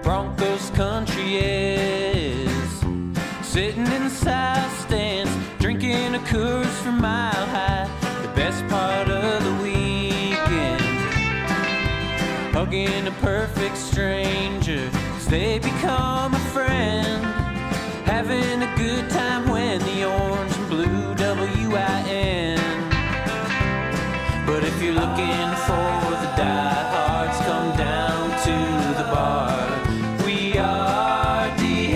Broncos country is. Sitting in the south stands, drinking a Coors from Mile High. The best part of the weekend, hugging a perfect stranger as they become a friend. Having a good time when the orange and blue WIN. But if you're looking for the diehards, come down to the bar. We are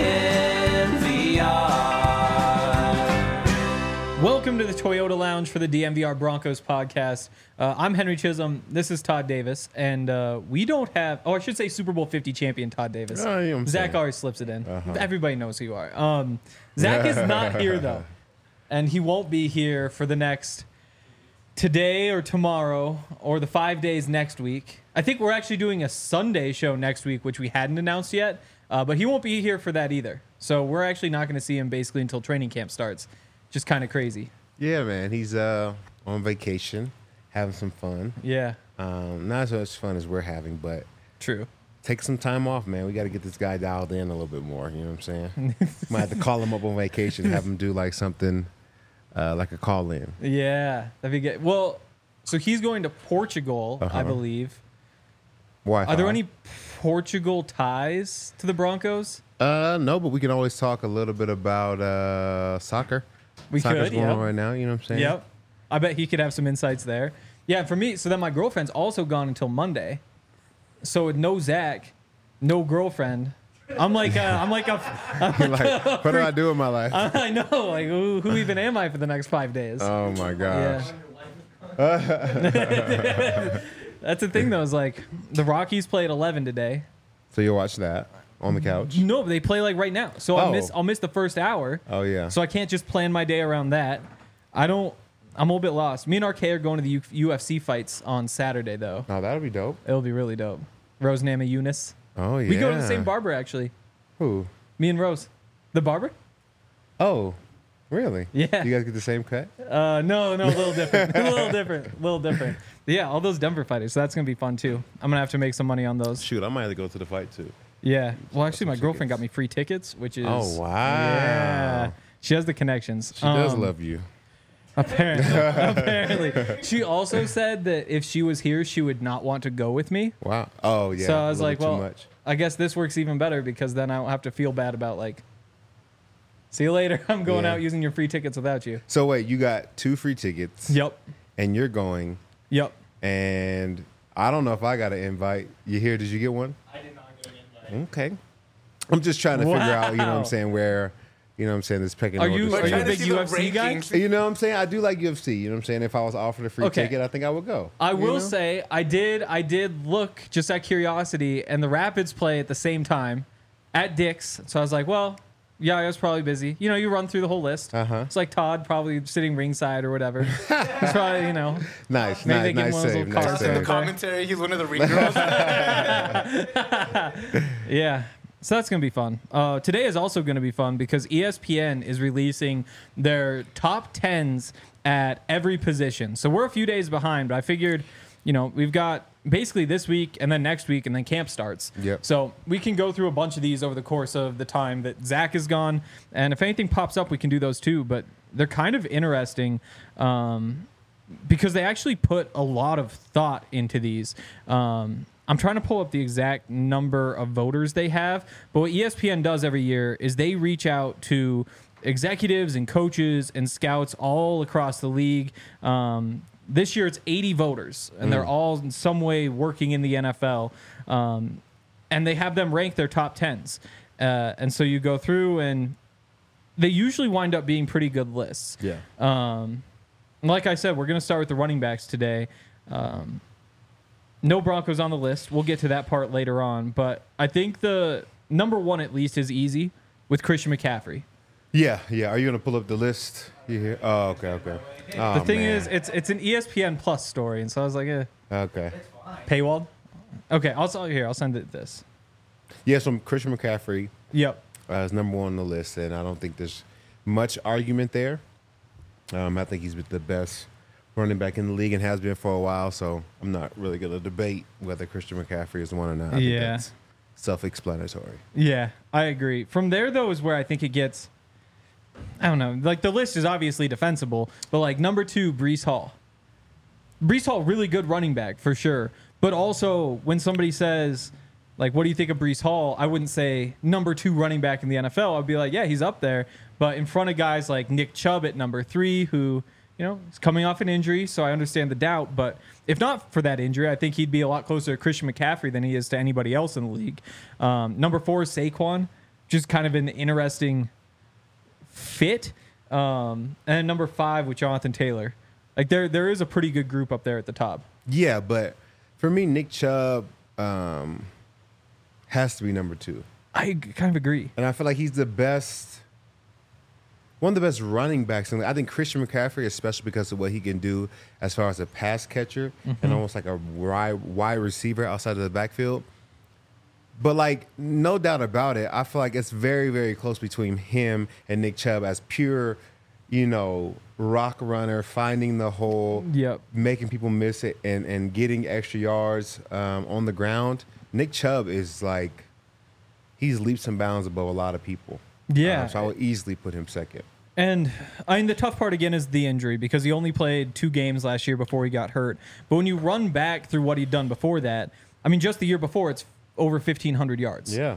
DNVR. Welcome to the Toyota Lounge for the DNVR Broncos podcast. I'm Henry Chisholm. This is Todd Davis. And we don't have, I should say Super Bowl 50 champion Todd Davis. You know what I'm Zach saying. always slips it in. Everybody knows who you are. Zach is not here, though. And he won't be here for the next today or tomorrow or the 5 days next week. I think we're actually doing a Sunday show next week, which we hadn't announced yet. But he won't be here for that either. So we're actually not going to see him basically until training camp starts. Just kind of crazy. Yeah, man. He's on vacation, having some fun. Yeah, Not as much fun as we're having, but true. take some time off, man. We got to get this guy dialed in a little bit more. You know what I'm saying? Might have to call him up on vacation, have him do like something like a call in. Yeah, that'd be good. Well, so he's going to Portugal, I believe. Why? Are there any Portugal ties to the Broncos? No, but we can always talk a little bit about soccer. We Soccer's could, going on yep. right now. You know what I'm saying? Yep. I bet he could have some insights there. Yeah, for me, so then my girlfriend's also gone until Monday. So with no Zach, no girlfriend. I'm like You're like, what do I do in my life? I know, like who even am I for the next 5 days? Oh my gosh. Yeah. That's the thing though, is like the Rockies play at 11 today. So you'll watch that on the couch? No, but they play like right now. So Oh. I'll miss the first hour. Oh yeah. So I can't just plan my day around that. I'm a little bit lost. Me and RK are going to the UFC fights on Saturday though. Oh, that'll be dope. It'll be really dope. Rose Namajunas. Oh yeah. We go to the same barber actually. Who? Me and Rose. The barber? Oh, really? Yeah. You guys get the same cut? No, a little different. a little different. Yeah, all those Denver fighters. So that's going to be fun too. I'm going to have to make some money on those. Shoot, I might have to go to the fight too. Yeah. Well, actually, my girlfriend got me free tickets, which is. Oh, wow. Yeah. She has the connections. She does love you. Apparently. She also said that if she was here, she would not want to go with me. Wow. Oh, yeah. So I was a little like, bit too well, much. I guess this works even better because then I don't have to feel bad about like, see you later. I'm going Yeah. out using your free tickets without you. So wait, you got 2 free tickets. Yep. And you're going. Yep. And I don't know if I got an invite. You here? Did you get one? I did not get an invite. Okay. I'm just trying to figure out, you know what Wow. I'm saying, where, you know what I'm saying, this pecking Are order. you starts. a big UFC guy? You know what I'm saying? I do like UFC. You know what I'm saying? If I was offered a free Okay. ticket, I think I would go. I You will know? say I did look just out of curiosity, and the Rapids play at the same time at Dick's. So I was like, well, yeah, I was probably busy. You know, you run through the whole list. Uh-huh. It's like Todd probably sitting ringside or whatever. He's probably, you know. Nice, Maybe they nice, give nice one of those save, little nice cards In the save. commentary, he's one of the ring girls. Yeah. So that's going to be fun. Today is also going to be fun because ESPN is releasing their top 10s at every position. So we're a few days behind, but I figured, you know, we've got basically this week and then next week and then camp starts. Yep. So we can go through a bunch of these over the course of the time that Zach is gone. And if anything pops up, we can do those too. But they're kind of interesting because they actually put a lot of thought into these. I'm trying to pull up the exact number of voters they have, but what ESPN does every year is they reach out to executives and coaches and scouts all across the league. This year it's 80 voters, and they're all in some way working in the NFL, and they have them rank their top 10s. And so you go through, and they usually wind up being pretty good lists. Yeah. Like I said, we're going to start with the running backs today. No Broncos on the list. We'll get to that part later on. But I think the number one, at least, is easy with Christian McCaffrey. Yeah. Are you going to pull up the list? You here? Oh, okay. Oh, The thing man. is, it's an ESPN Plus story. And so I was like, Okay. paywalled? Okay, I'll send it this. Yeah, so Christian McCaffrey Yep. is number one on the list, and I don't think there's much argument there. I think he's been the best running back in the league and has been for a while, so I'm not really going to debate whether Christian McCaffrey is one or not. I think Yeah. that's self-explanatory. Yeah, I agree. From there, though, is where I think it gets, I don't know, like the list is obviously defensible, but like number 2, Breece Hall. Breece Hall, really good running back for sure. But also, when somebody says, like, what do you think of Breece Hall? I wouldn't say number 2 running back in the NFL. I'd be like, yeah, he's up there. But in front of guys like Nick Chubb at number 3, who, you know, is coming off an injury, so I understand the doubt. But if not for that injury, I think he'd be a lot closer to Christian McCaffrey than he is to anybody else in the league. Number 4 is Saquon, just kind of an interesting fit. And number 5 with Jonathan Taylor. Like, there is a pretty good group up there at the top. Yeah, but for me, Nick Chubb has to be number 2. I kind of agree. And I feel like he's the best, one of the best running backs. I think Christian McCaffrey, especially because of what he can do as far as a pass catcher and almost like a wide receiver outside of the backfield. But, like, no doubt about it, I feel like it's very, very close between him and Nick Chubb as pure, you know, rock runner, finding the hole, making people miss it, and getting extra yards on the ground. Nick Chubb is like, he's leaps and bounds above a lot of people. Yeah. So I would easily put him second. And I mean, the tough part again is the injury, because he only played 2 games last year before he got hurt. But when you run back through what he'd done before that, I mean, just the year before, it's over 1,500 yards. Yeah.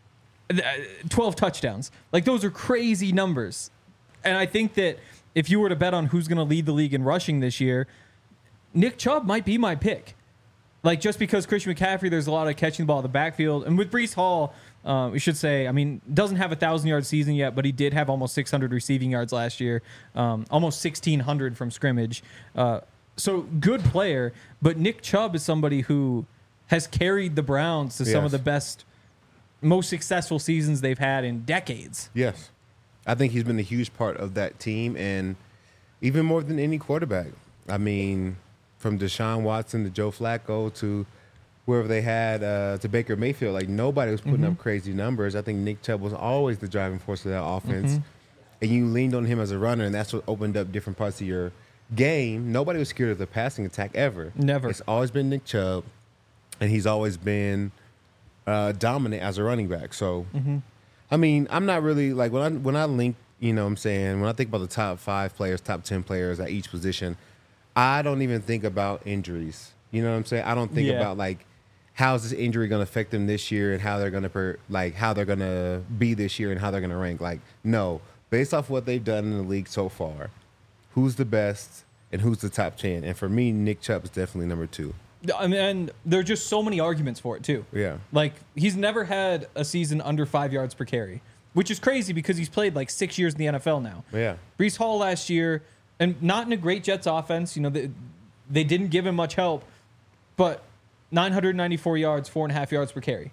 12 touchdowns. Like, those are crazy numbers. And I think that if you were to bet on who's going to lead the league in rushing this year, Nick Chubb might be my pick. Like, just because Christian McCaffrey, there's a lot of catching the ball in the backfield. And with Breece Hall, we should say, I mean, doesn't have a 1,000-yard season yet, but he did have almost 600 receiving yards last year, almost 1,600 from scrimmage. So good player, but Nick Chubb is somebody who has carried the Browns to some of the best, most successful seasons they've had in decades. Yes. I think he's been a huge part of that team, and even more than any quarterback. I mean, from Deshaun Watson to Joe Flacco to wherever they had to Baker Mayfield, like, nobody was putting up crazy numbers. I think Nick Chubb was always the driving force of that offense, and you leaned on him as a runner, and that's what opened up different parts of your game. Nobody was scared of the passing attack ever. Never. It's always been Nick Chubb, and he's always been dominant as a running back. So, I mean, I'm not really, like, when I link, you know what I'm saying, when I think about the top 5 players, top 10 players at each position, I don't even think about injuries. You know what I'm saying? I don't think about, like, how's this injury going to affect them this year and how they're going to how they're going to be this year and how they're going to rank. Like, no, based off what they've done in the league so far, who's the best and who's the top 10? And for me, Nick Chubb is definitely number 2. I mean, and there are just so many arguments for it, too. Yeah. Like, he's never had a season under 5 yards per carry, which is crazy because he's played like 6 years in the NFL now. Yeah. Breece Hall last year, and not in a great Jets offense. You know, they didn't give him much help, but 994 yards, 4.5 yards per carry.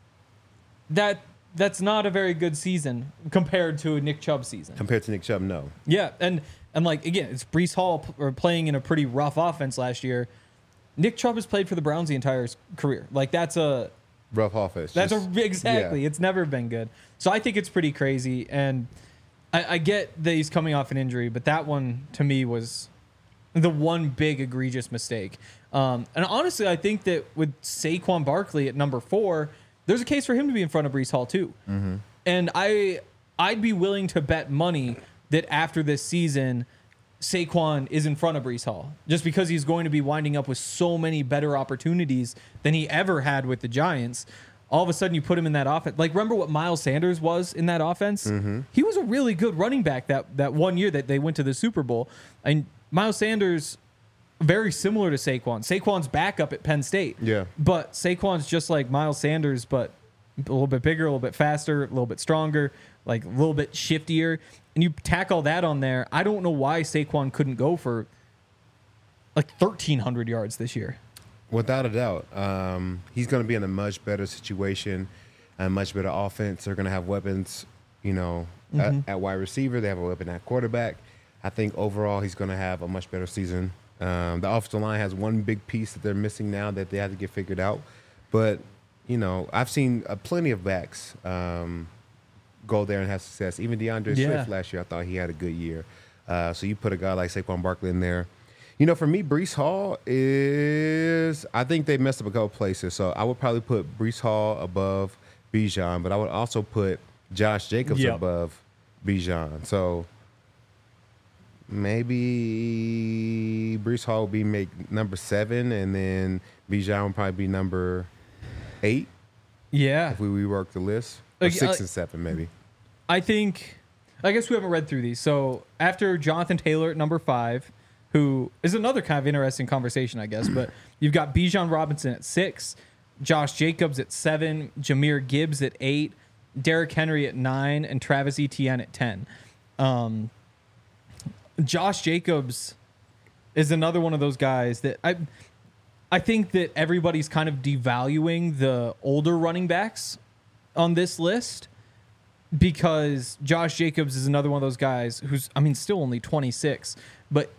That's not a very good season compared to a Nick Chubb season. Compared to Nick Chubb, no. Yeah, and like, again, it's Breece Hall playing in a pretty rough offense last year. Nick Chubb has played for the Browns the entire career. Like, that's a rough offense. Exactly. Yeah. It's never been good. So I think it's pretty crazy, and I get that he's coming off an injury, but that one to me was the one big egregious mistake. And honestly, I think that with Saquon Barkley at number 4, there's a case for him to be in front of Breece Hall too. And I'd be willing to bet money that after this season, Saquon is in front of Breece Hall, just because he's going to be winding up with so many better opportunities than he ever had with the Giants. All of a sudden, you put him in that offense. Like, remember what Miles Sanders was in that offense? He was a really good running back that one year that they went to the Super Bowl. And Miles Sanders, very similar to Saquon. Saquon's backup at Penn State. Yeah. But Saquon's just like Miles Sanders, but a little bit bigger, a little bit faster, a little bit stronger, like a little bit shiftier. And you tack all that on there. I don't know why Saquon couldn't go for like 1,300 yards this year. Without a doubt. He's going to be in a much better situation, a much better offense. They're going to have weapons, you know, at wide receiver. They have a weapon at quarterback. I think overall he's going to have a much better season. The offensive line has one big piece that they're missing now that they have to get figured out. But, you know, I've seen plenty of backs go there and have success. Even DeAndre Swift last year, I thought he had a good year. So you put a guy like Saquon Barkley in there. For me, Brees Hall is. I think they messed up a couple places, so I would probably put Brees Hall above Bijan, but I would also put Josh Jacobs above Bijan. So maybe Brees Hall will be number 7, and then Bijan will probably be number 8. Yeah. If we rework the list. Or 6 and 7, maybe. I guess we haven't read through these. So after Jonathan Taylor at number 5, who is another kind of interesting conversation, I guess, but you've got Bijan Robinson at 6, Josh Jacobs at 7, Jahmyr Gibbs at 8, Derrick Henry at 9, and Travis Etienne at 10. Josh Jacobs is another one of those guys that I think that everybody's kind of devaluing the older running backs on this list because Josh Jacobs is another one of those guys who's, still only 26, but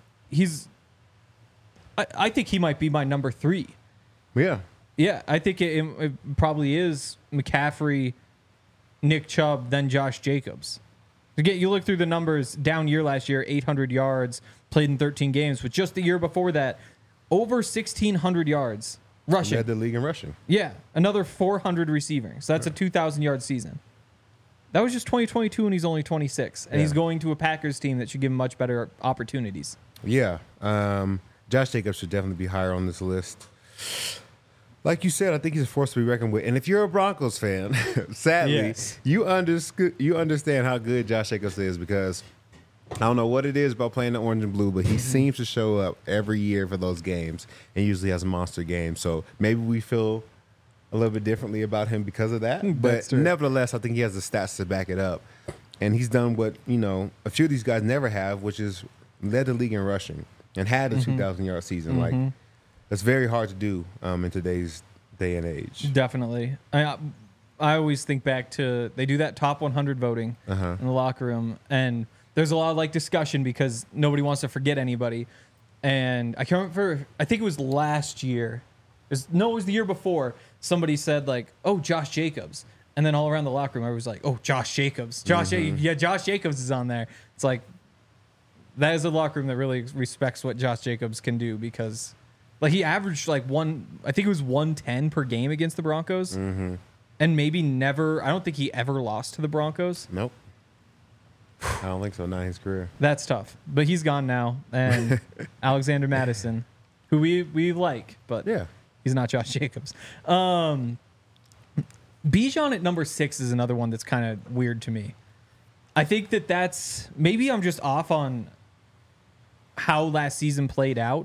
I think he might be my number 3. Yeah. Yeah, I think it probably is McCaffrey, Nick Chubb, then Josh Jacobs. You look through the numbers, down year last year, 800 yards, played in 13 games. But just the year before that, over 1,600 yards rushing. Led the league in rushing. Yeah, another 400 receiving. So that's a 2,000-yard season. That was just 2022, and he's only 26. And he's going to a Packers team that should give him much better opportunities. Yeah. Josh Jacobs should definitely be higher on this list. Like you said, I think he's a force to be reckoned with. And if you're a Broncos fan, sadly, you understand how good Josh Jacobs is because I don't know what it is about playing the orange and blue, but he seems to show up every year for those games and usually has a monster game. So maybe we feel a little bit differently about him because of that. But nevertheless, I think he has the stats to back it up. And he's done what, a few of these guys never have, which is led the league in rushing and had a 2,000-yard season. Like, that's very hard to do in today's day and age. Definitely. I always think back to they do that top 100 voting in the locker room, and there's a lot of discussion because nobody wants to forget anybody. And I can't remember. I think it was last year. It was the year before. Somebody said "Oh, Josh Jacobs," and then all around the locker room, everybody was like, "Oh, Josh Jacobs, Josh Jacobs is on there." It's like that is a locker room that really respects what Josh Jacobs can do because. He averaged I think it was 110 per game against the Broncos. And maybe never, I don't think he ever lost to the Broncos. Nope. I don't think so, not in his career. That's tough. But he's gone now. And Alexander Madison, who we like, but he's not Josh Jacobs. Bijan at number 6 is another one that's kind of weird to me. I think that's, maybe I'm just off on how last season played out.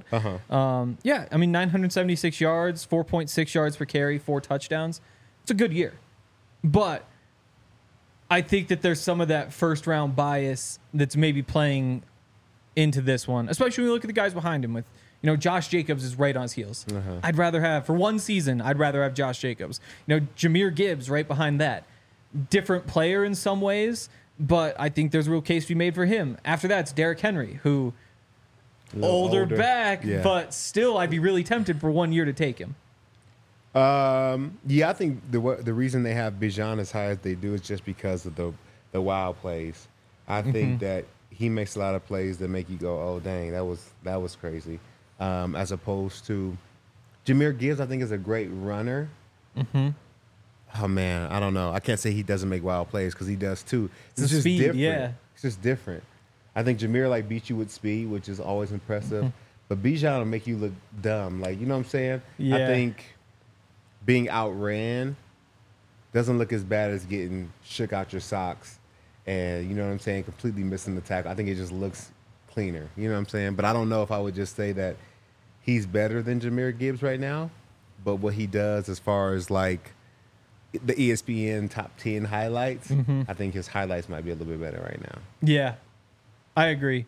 976 yards, 4.6 yards per carry, 4 touchdowns. It's a good year. But I think that there's some of that first round bias that's maybe playing into this one, especially when you look at the guys behind him with, Josh Jacobs is right on his heels. I'd rather have, for one season, Josh Jacobs. Jahmyr Gibbs right behind that. Different player in some ways, but I think there's a real case to be made for him. After that, it's Derrick Henry, who older back, but still I'd be really tempted for 1 year to take him. I think the reason they have Bijan as high as they do is just because of the wild plays. I think that he makes a lot of plays that make you go, oh dang, that was crazy. As opposed to Jahmyr Gibbs, I think is a great runner. Oh man, I don't know. I can't say he doesn't make wild plays because he does too. It's just speed, different. It's just different. I think Jahmyr beat you with speed, which is always impressive. But Bijan will make you look dumb. You know what I'm saying? Yeah. I think being outran doesn't look as bad as getting shook out your socks and, you know what I'm saying, completely missing the tackle. I think it just looks cleaner. You know what I'm saying? But I don't know if I would just say that he's better than Jahmyr Gibbs right now. But what he does as far as the ESPN top 10 highlights, I think his highlights might be a little bit better right now. Yeah. I agree.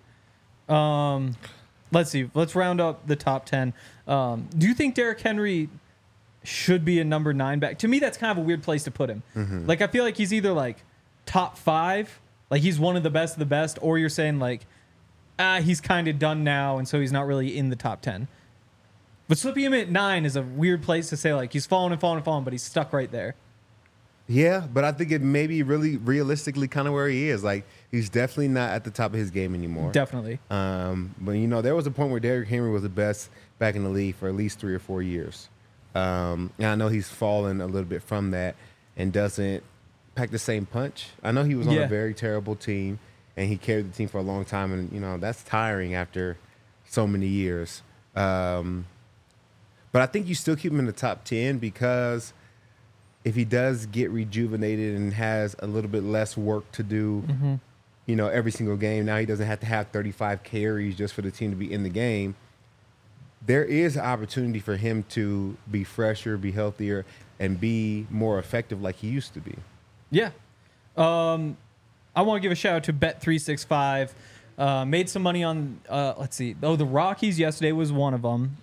Let's see. Let's round up the top 10. Do you think Derrick Henry should be a number 9 back? To me, that's kind of a weird place to put him. I feel like he's either top 5, he's one of the best, or you're saying he's kind of done now, and so he's not really in the top 10. But slipping him at 9 is a weird place to say he's fallen and fallen and fallen, but he's stuck right there. Yeah, but I think it may be really realistically kind of where he is. Like, he's definitely not at the top of his game anymore. Definitely. But, there was a point where Derrick Henry was the best back in the league for at least 3 or 4 years. And I know he's fallen a little bit from that and doesn't pack the same punch. I know he was on a very terrible team, and he carried the team for a long time, and, that's tiring after so many years. But I think you still keep him in the top 10 because if he does get rejuvenated and has a little bit less work to do, every single game, now he doesn't have to have 35 carries just for the team to be in the game. There is an opportunity for him to be fresher, be healthier, and be more effective like he used to be. Yeah. I want to give a shout out to Bet365. Made some money on, let's see. Oh, the Rockies yesterday was one of them.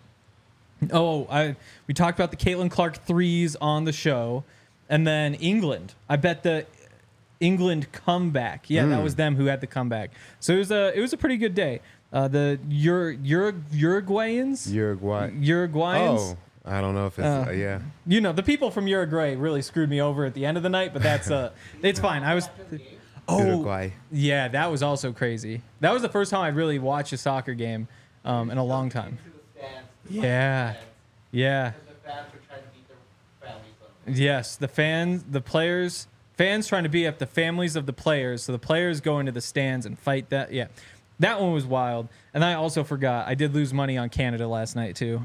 We talked about the Caitlin Clark threes on the show. And then England. I bet the England comeback. Yeah, that was them who had the comeback. So it was a pretty good day. The Uruguayans? Uruguayans? Oh, I don't know if it's, yeah. The people from Uruguay really screwed me over at the end of the night, but that's, it's fine. Uruguay. Yeah, that was also crazy. That was the first time I really watched a soccer game in a long time. Yeah. Yes, the fans trying to beat up the families of the players, so the players go into the stands and fight that. Yeah, that one was wild. And I also forgot, I did lose money on Canada last night too.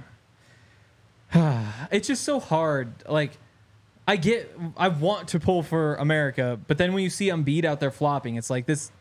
It's just so hard. Like, I want to pull for America, but then when you see Embiid out there flopping, it's like this.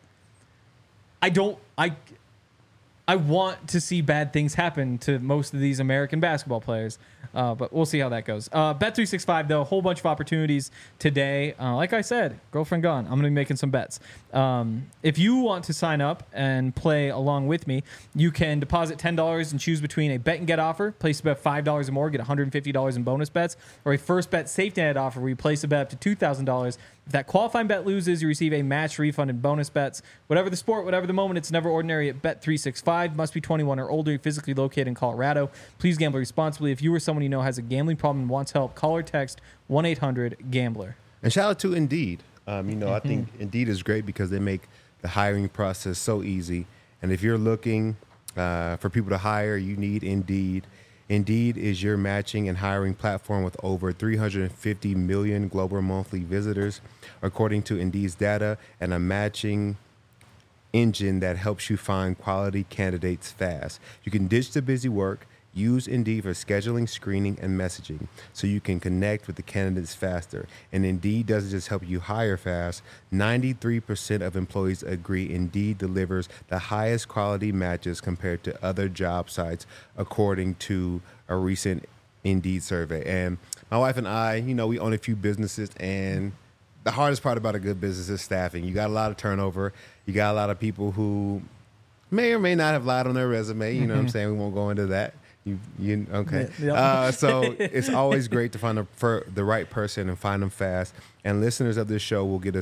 I want to see bad things happen to most of these American basketball players, but we'll see how that goes. Bet365, though, a whole bunch of opportunities today. Like I said, girlfriend gone. I'm going to be making some bets. If you want to sign up and play along with me, you can deposit $10 and choose between a bet and get offer, place a bet $5 or more, get $150 in bonus bets, or a first bet safety net offer where you place a bet up to $2,000. If that qualifying bet loses, you receive a match refund in bonus bets. Whatever the sport, whatever the moment, it's never ordinary at Bet365. Must be 21 or older, physically located in Colorado. Please gamble responsibly. If you or someone you know has a gambling problem and wants help, call or text 1-800-GAMBLER. And shout out to Indeed. I think Indeed is great because they make the hiring process so easy. And if you're looking for people to hire, you need Indeed. Indeed is your matching and hiring platform with over 350 million global monthly visitors, according to Indeed's data, and a matching engine that helps you find quality candidates fast. You can ditch the busy work. Use Indeed for scheduling, screening, and messaging so you can connect with the candidates faster. And Indeed doesn't just help you hire fast. 93% of employees agree Indeed delivers the highest quality matches compared to other job sites, according to a recent Indeed survey. And my wife and I, we own a few businesses, and the hardest part about a good business is staffing. You got a lot of turnover. You got a lot of people who may or may not have lied on their resume. You know what I'm saying? We won't go into that. Okay. Yep. So it's always great to find the right person and find them fast. And listeners of this show will get a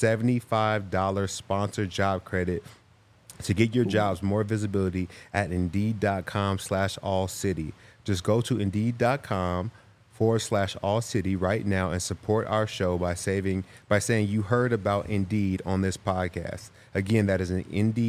$75 sponsored job credit to get your jobs more visibility at Indeed.com/allcity. Just go to Indeed.com/allcity right now and support our show by saying you heard about Indeed on this podcast. Again, that is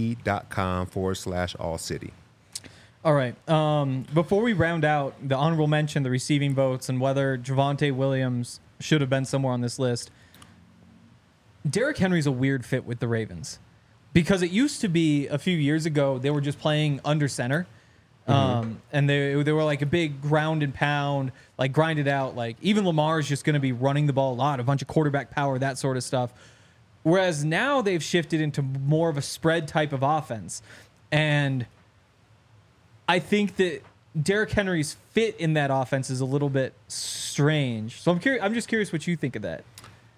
Indeed.com/allcity. All right. Before we round out the honorable mention, the receiving votes, and whether Javonte Williams should have been somewhere on this list, Derrick Henry's a weird fit with the Ravens because it used to be a few years ago they were just playing under center, and they were like a big ground and pound, like grind it out. Like even Lamar's just going to be running the ball a lot, a bunch of quarterback power, that sort of stuff. Whereas now they've shifted into more of a spread type of offense, and I think that Derrick Henry's fit in that offense is a little bit strange. So I'm just curious what you think of that.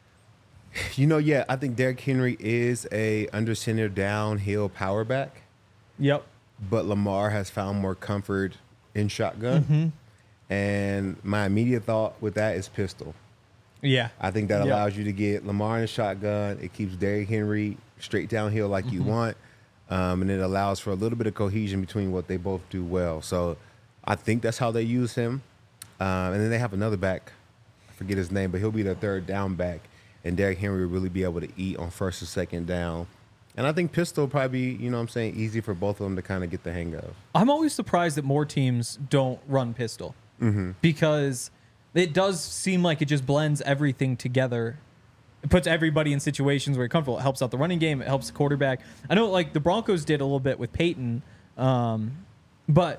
I think Derrick Henry is a under center downhill power back. Yep. But Lamar has found more comfort in shotgun. And my immediate thought with that is pistol. Yeah. I think that allows you to get Lamar in a shotgun. It keeps Derrick Henry straight downhill like you want. And it allows for a little bit of cohesion between what they both do well. So I think that's how they use him. And then they have another back. I forget his name, but he'll be the third down back. and Derrick Henry will really be able to eat on first and second down. And I think pistol will probably be, easy for both of them to kind of get the hang of. I'm always surprised that more teams don't run pistol because it does seem like it just blends everything together. It puts everybody in situations where you're comfortable. It helps out the running game. It helps the quarterback. I know, like, the Broncos did a little bit with Peyton, but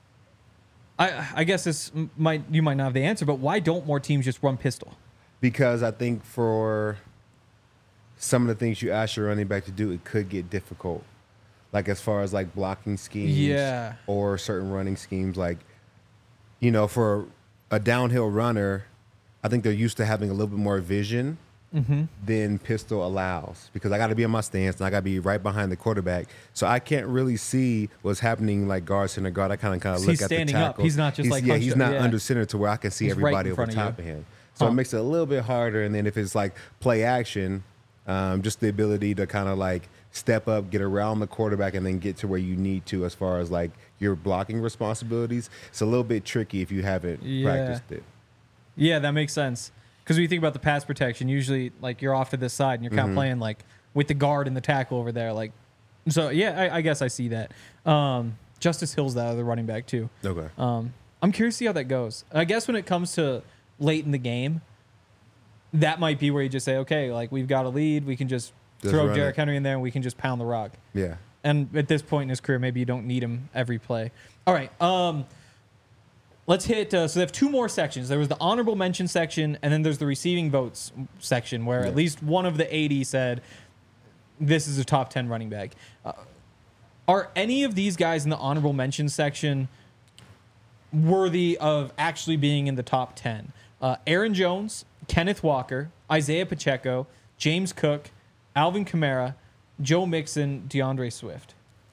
I guess you might not have the answer, but why don't more teams just run pistol? Because I think for some of the things you ask your running back to do, it could get difficult. Like as far as like blocking schemes or certain running schemes. Like, for a downhill runner, I think they're used to having a little bit more vision than pistol allows. Because I got to be in my stance and I got to be right behind the quarterback. So I can't really see what's happening like guard, center guard. I kind of look at the standing tackle. up. He's not just he's not under center to where I can see He's everybody right over top of him. So it makes it a little bit harder. And then if it's like play action, just the ability to kind of like step up, get around the quarterback, and then get to where you need to as far as like your blocking responsibilities. It's a little bit tricky if you haven't practiced it. Yeah, that makes sense. Because when you think about the pass protection, usually like you're off to this side and you're kind of playing like with the guard and the tackle over there. Like, so yeah, I guess I see that. Justice Hill's the other running back too. Okay. I'm curious to see how that goes. I guess when it comes to late in the game, that might be where you just say, okay, like we've got a lead, we can just throw Derrick Henry in there and we can just pound the rock. Yeah. And at this point in his career, maybe you don't need him every play. All right. Let's hit. So they have two more sections. There was the honorable mention section, and then there's the receiving votes section, where at least one of the 80 said this is a top 10 running back. Are any of these guys in the honorable mention section worthy of actually being in the top 10? Aaron Jones, Kenneth Walker, Isaiah Pacheco, James Cook, Alvin Kamara, Joe Mixon, DeAndre Swift.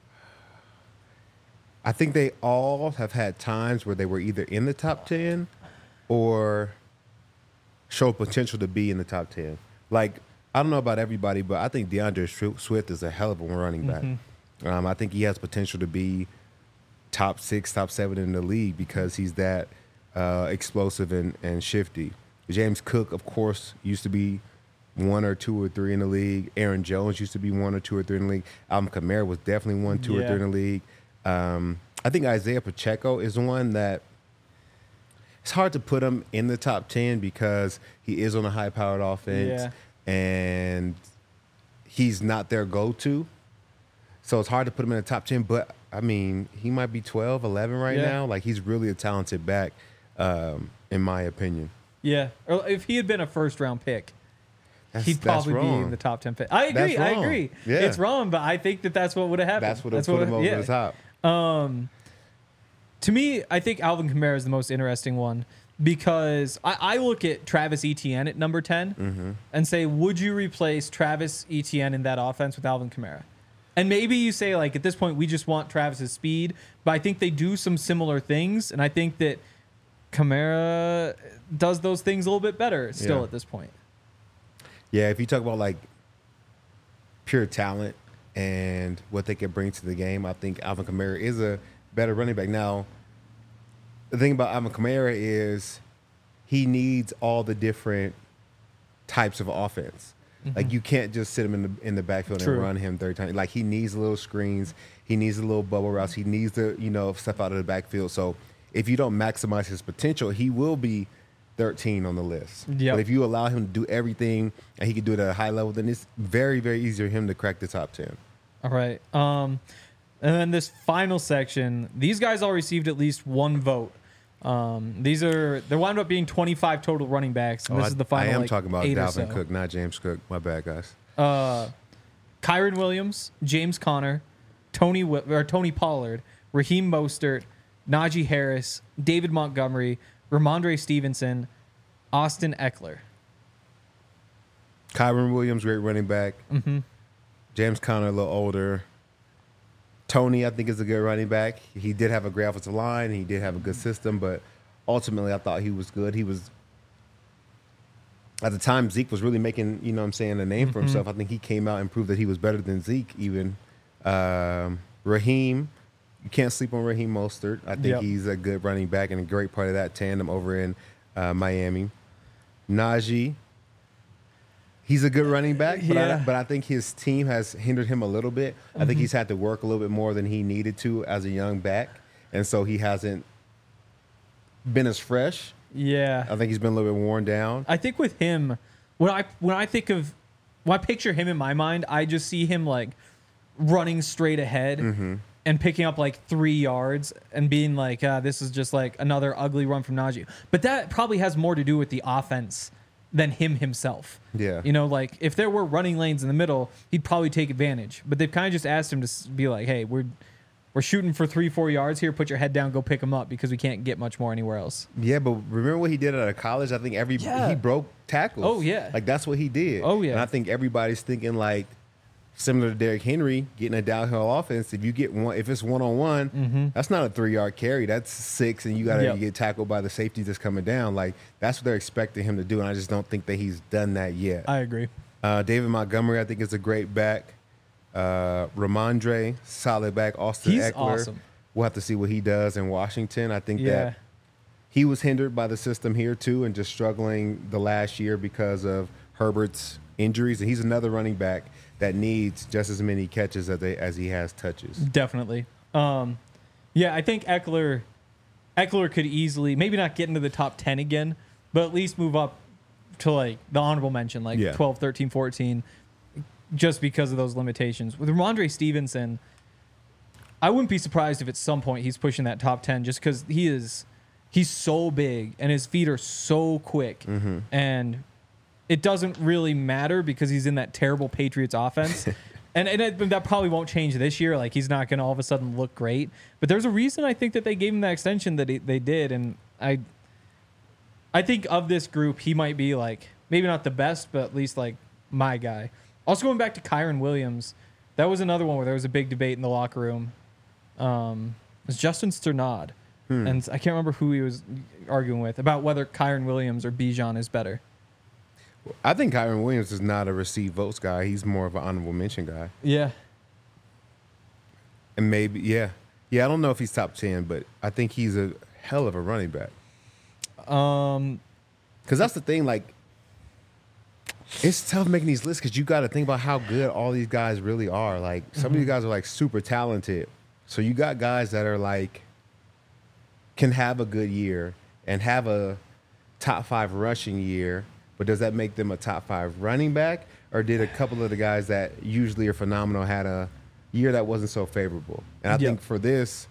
I think they all have had times where they were either in the top 10 or show potential to be in the top 10. Like, I don't know about everybody, but I think DeAndre Swift is a hell of a running back. I think he has potential to be top 6, top 7 in the league because he's that explosive and shifty. James Cook, of course, used to be 1 or 2 or 3 in the league. Aaron Jones used to be 1 or 2 or 3 in the league. Alvin Kamara was definitely 1, 2 or 3 in the league. I think Isaiah Pacheco is one that it's hard to put him in the top 10 because he is on a high-powered offense and he's not their go-to. So it's hard to put him in the top 10, but, I mean, he might be 12, 11 right now. Like, he's really a talented back, in my opinion. Yeah. Or if he had been a first-round pick, he'd probably be in the top 10 pick. I agree. Yeah. It's wrong, but I think that's what would have happened. That's what would have put him over the top. To me, I think Alvin Kamara is the most interesting one because I look at Travis Etienne at number 10 and say, would you replace Travis Etienne in that offense with Alvin Kamara? And maybe you say, like, at this point, we just want Travis's speed, but I think they do some similar things, and I think that Kamara does those things a little bit better still at this point. Yeah, if you talk about, like, pure talent and what they can bring to the game, I think Alvin Kamara is a better running back. Now, the thing about Alvin Kamara is he needs all the different types of offense. Like, you can't just sit him in the backfield and run him 30 times. Like, he needs little screens. He needs a little bubble routes. He needs to, step out of the backfield. So if you don't maximize his potential, he will be 13 on the list. But if you allow him to do everything and he can do it at a high level, then it's very, very easy for him to crack the top 10. All right. And then this final section, these guys all received at least one vote. They wound up being 25 total running backs. And this is the final. I am talking about Dalvin so. Cook, not James Cook. My bad, guys. Kyren Williams, James Conner, Tony Pollard, Raheem Mostert, Najee Harris, David Montgomery, Ramondre Stevenson, Austin Eckler. Kyren Williams, great running back. James Conner, a little older. Tony, I think, is a good running back. He did have a great offensive line. He did have a good system, but ultimately I thought he was good. He was, at the time, Zeke was really making, a name for himself. I think he came out and proved that he was better than Zeke even. Raheem, you can't sleep on Raheem Mostert. I think he's a good running back and a great part of that tandem over in Miami. Najee, He's a good running back, but, Yeah. but I think his team has hindered him a little bit. I think he's had to work a little bit more than he needed to as a young back, and so he hasn't been as fresh. Yeah. I think he's been a little bit worn down. I think with him, when I picture him in my mind, I just see him like running straight ahead and picking up like 3 yards and being like, this is just like another ugly run from Najee. But that probably has more to do with the offense than him himself. Yeah. You know, like if there were running lanes in the middle, he'd probably take advantage. But they've kind of just asked him to be like, hey, we're shooting for 3-4 yards here. Put your head down, go pick them up because we can't get much more anywhere else. Yeah, but remember what he did out of college? I think Yeah. he broke tackles. Oh, yeah. Like that's what he did. Oh, yeah. And I think everybody's thinking like similar to Derrick Henry getting a downhill offense. If you get one, if it's 1-on-1, that's not a 3-yard carry. That's 6, and you got to Yep. get tackled by the safety that's coming down. Like that's what they're expecting him to do, and I just don't think that he's done that yet. I agree. David Montgomery, I think, is a great back. Ramondre, solid back. Austin He's Eckler. awesome. We'll have to see what he does in Washington. I think Yeah. that he was hindered by the system here too, and just struggling the last year because of Herbert's injuries. And he's another running back that needs just as many catches as he has touches. Definitely. Yeah, I think Eckler could easily, maybe not get into the top 10 again, but at least move up to like the honorable mention, like Yeah. 12, 13, 14, just because of those limitations. With Ramondre Stevenson, I wouldn't be surprised if at some point he's pushing that top 10 just because he's so big and his feet are so quick. And it doesn't really matter because he's in that terrible Patriots offense. And that probably won't change this year. Like, he's not going to all of a sudden look great. But there's a reason I think that they gave him that extension that they did. And I think of this group, he might be, like, maybe not the best, but at least, like, my guy. Also, going back to Kyron Williams, that was another one where there was a big debate in the locker room. It was Justin Sternad. And I can't remember who he was arguing with about whether Kyron Williams or Bijan is better. I think Kyron Williams is not a receive votes guy. He's more of an honorable mention guy. Yeah. And maybe, yeah. Yeah, I don't know if he's top 10, but I think he's a hell of a running back. Because that's the thing, like, it's tough making these lists because you got to think about how good all these guys really are. Like, some of these guys are, like, super talented. So you got guys that are, like, can have a good year and have a top 5 rushing year, but does that make them a top 5 running back? Or did a couple of the guys that usually are phenomenal had a year that wasn't so favorable? And I think for this,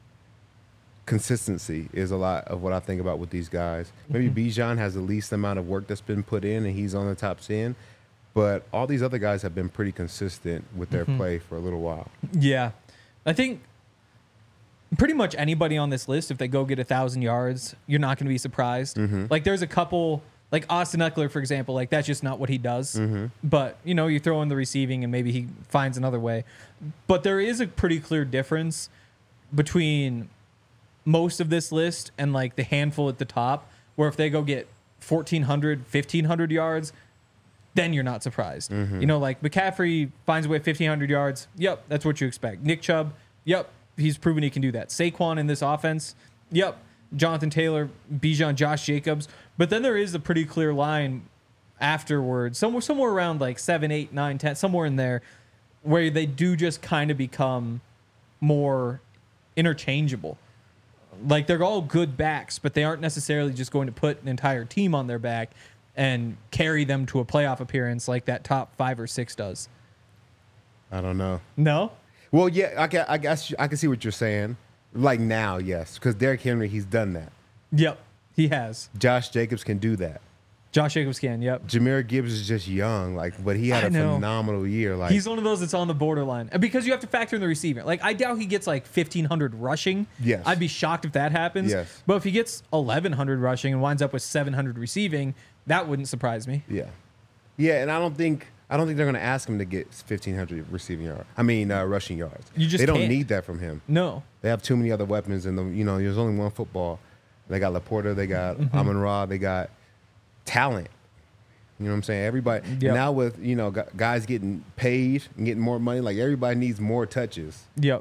consistency is a lot of what I think about with these guys. Maybe Bijan has the least amount of work that's been put in and he's on the top 10, but all these other guys have been pretty consistent with their play for a little while. Yeah. I think pretty much anybody on this list, if they go get 1,000 yards, you're not going to be surprised. Like, there's a couple, like Austin Eckler, for example, like that's just not what he does. But, you know, you throw in the receiving and maybe he finds another way. But there is a pretty clear difference between most of this list and like the handful at the top, where if they go get 1,400, 1,500 yards, then you're not surprised. You know, like McCaffrey finds a way 1,500 yards. Yep, that's what you expect. Nick Chubb, yep, he's proven he can do that. Saquon in this offense, yep. Jonathan Taylor, Bijan, Josh Jacobs. But then there is a pretty clear line afterwards, somewhere around like 7, 8, 9, 10, somewhere in there, where they do just kind of become more interchangeable. Like, they're all good backs, but they aren't necessarily just going to put an entire team on their back and carry them to a playoff appearance like that top 5 or 6 does. I don't know. No? Well, yeah, I guess I can see what you're saying. Like now, yes, because Derrick Henry, he's done that. Yep, he has. Josh Jacobs can do that. Josh Jacobs can, yep. Jameer Gibbs is just young, like, but he had I a know. phenomenal year. Like, He's one of those that's on the borderline. And because you have to factor in the receiving. Like, I doubt he gets like 1,500 rushing. Yes. I'd be shocked if that happens. Yes. But if he gets 1,100 rushing and winds up with 700 receiving, that wouldn't surprise me. yeah, and I don't think they're going to ask him to get 1,500 receiving yards. I mean, rushing yards. You just they don't can't. need that from him. No. They have too many other weapons, and there's only one football. They got Laporta, they got Amon-Ra, they got talent. You know what I'm saying? Everybody Yep. now with guys getting paid and getting more money, like everybody needs more touches. Yep.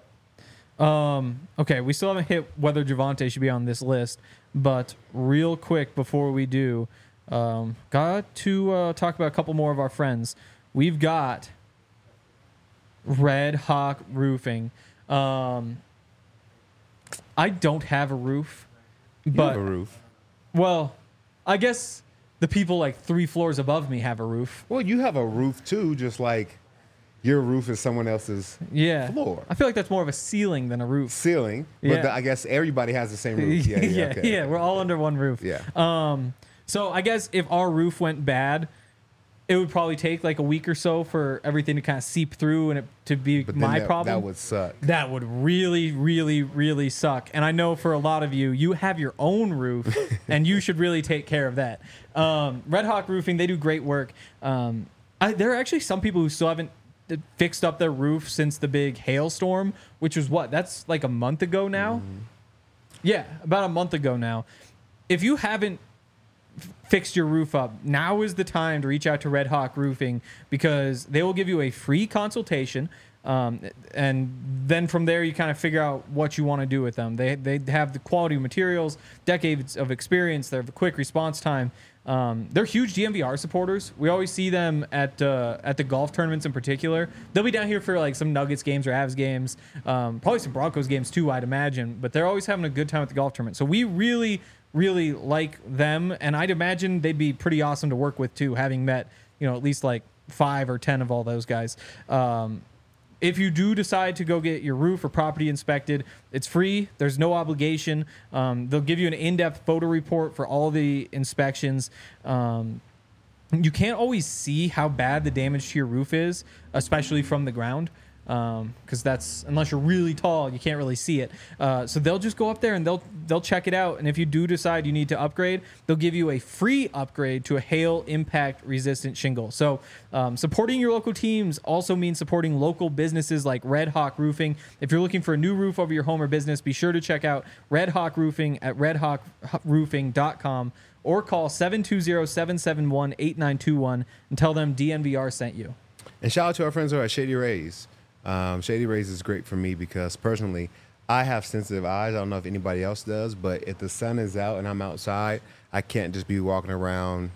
Okay, we still haven't hit whether Javonte should be on this list, but real quick before we do, Got to talk about a couple more of our friends. We've got Red Hawk Roofing. I don't have a roof, You but have a roof. well, I guess the people like 3 floors above me have a roof. Well, you have a roof too, just like your roof is someone else's Yeah, floor. I feel like that's more of a ceiling than a roof. ceiling. Yeah. But I guess everybody has the same roof. Yeah, yeah, okay. we're all under one roof. Yeah. So I guess if our roof went bad, it would probably take like a week or so for everything to kind of seep through and it to be But then my that, problem. That would suck. That would really, really, really suck. And I know for a lot of you, you have your own roof, and you should really take care of that. Red Hawk Roofing, they do great work. There are actually some people who still haven't fixed up their roof since the big hailstorm, which was what? That's like a month ago now? Yeah, about a month ago now. If you haven't fixed your roof up, now is the time to reach out to Red Hawk Roofing because they will give you a free consultation. And then from there, you kind of figure out what you want to do with them. They have the quality of materials, decades of experience. They have a quick response time. They're huge DMVR supporters. We always see them at the golf tournaments in particular. They'll be down here for like some Nuggets games or Avs games, probably some Broncos games too, I'd imagine. But they're always having a good time at the golf tournament. So we really, really like them, and I'd imagine they'd be pretty awesome to work with too, having met at least like 5 or 10 of all those guys. If you do decide to go get your roof or property inspected, it's free. There's no obligation. They'll give you an in-depth photo report for all the inspections. You can't always see how bad the damage to your roof is, especially from the ground, because that's, unless you're really tall, you can't really see it. So they'll just go up there and they'll check it out. And if you do decide you need to upgrade, they'll give you a free upgrade to a hail impact resistant shingle. So supporting your local teams also means supporting local businesses like Red Hawk Roofing. If you're looking for a new roof over your home or business, be sure to check out Red Hawk Roofing at redhawkroofing.com or call 720-771-8921 and tell them DNVR sent you. And shout out to our friends who are at Shady Rays. Shady Rays is great for me because personally, I have sensitive eyes. I don't know if anybody else does, but if the sun is out and I'm outside, I can't just be walking around.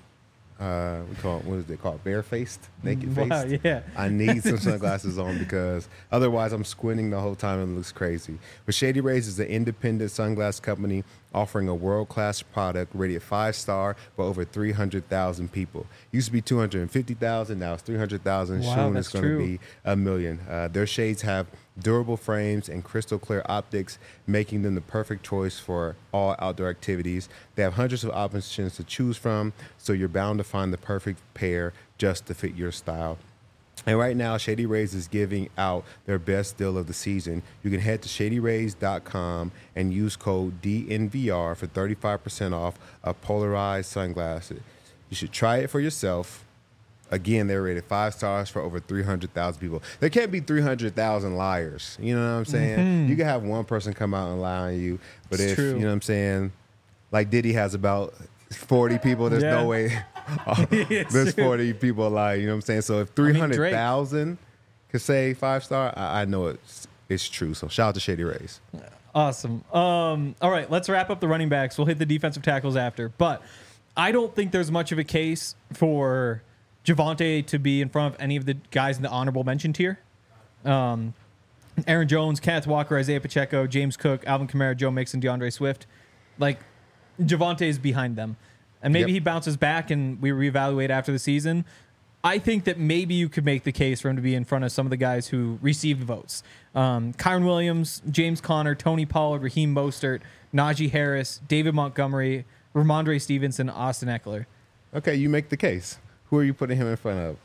What is it called? Barefaced, naked faced. Wow, yeah. I need some sunglasses on because otherwise I'm squinting the whole time and it looks crazy. But Shady Rays is an independent sunglass company offering a world-class product rated 5-star by over 300,000 people. Used to be 250,000, now it's 300,000. Wow, Soon that's it's going to true. be 1 million. Their shades have durable frames and crystal clear optics, making them the perfect choice for all outdoor activities. They have hundreds of options to choose from, so you're bound to find the perfect pair just to fit your style. And right now, Shady Rays is giving out their best deal of the season. You can head to shadyrays.com and use code DNVR for 35% off of polarized sunglasses. You should try it for yourself. Again, they're rated 5 stars for over 300,000 people. There can't be 300,000 liars. You know what I'm saying? You can have one person come out and lie on you, but It's if, true. you know what I'm saying, like Diddy has about 40 people, there's Yeah. no way It's there's true. 40 people lying. You know what I'm saying? So if Drake. 300,000 could say 5-star, I know it's true. So shout out to Shady Rays. Awesome. All right, let's wrap up the running backs. We'll hit the defensive tackles after. But I don't think there's much of a case for Javonte to be in front of any of the guys in the honorable mention tier. Aaron Jones, Kenneth Walker, Isaiah Pacheco, James Cook, Alvin Kamara, Joe Mixon, DeAndre Swift. Like, Javonte is behind them. And maybe Yep. he bounces back and we reevaluate after the season. I think that maybe you could make the case for him to be in front of some of the guys who received votes. Kyron Williams, James Conner, Tony Pollard, Raheem Mostert, Najee Harris, David Montgomery, Ramondre Stevenson, Austin Eckler. Okay, you make the case. Who are you putting him in front of?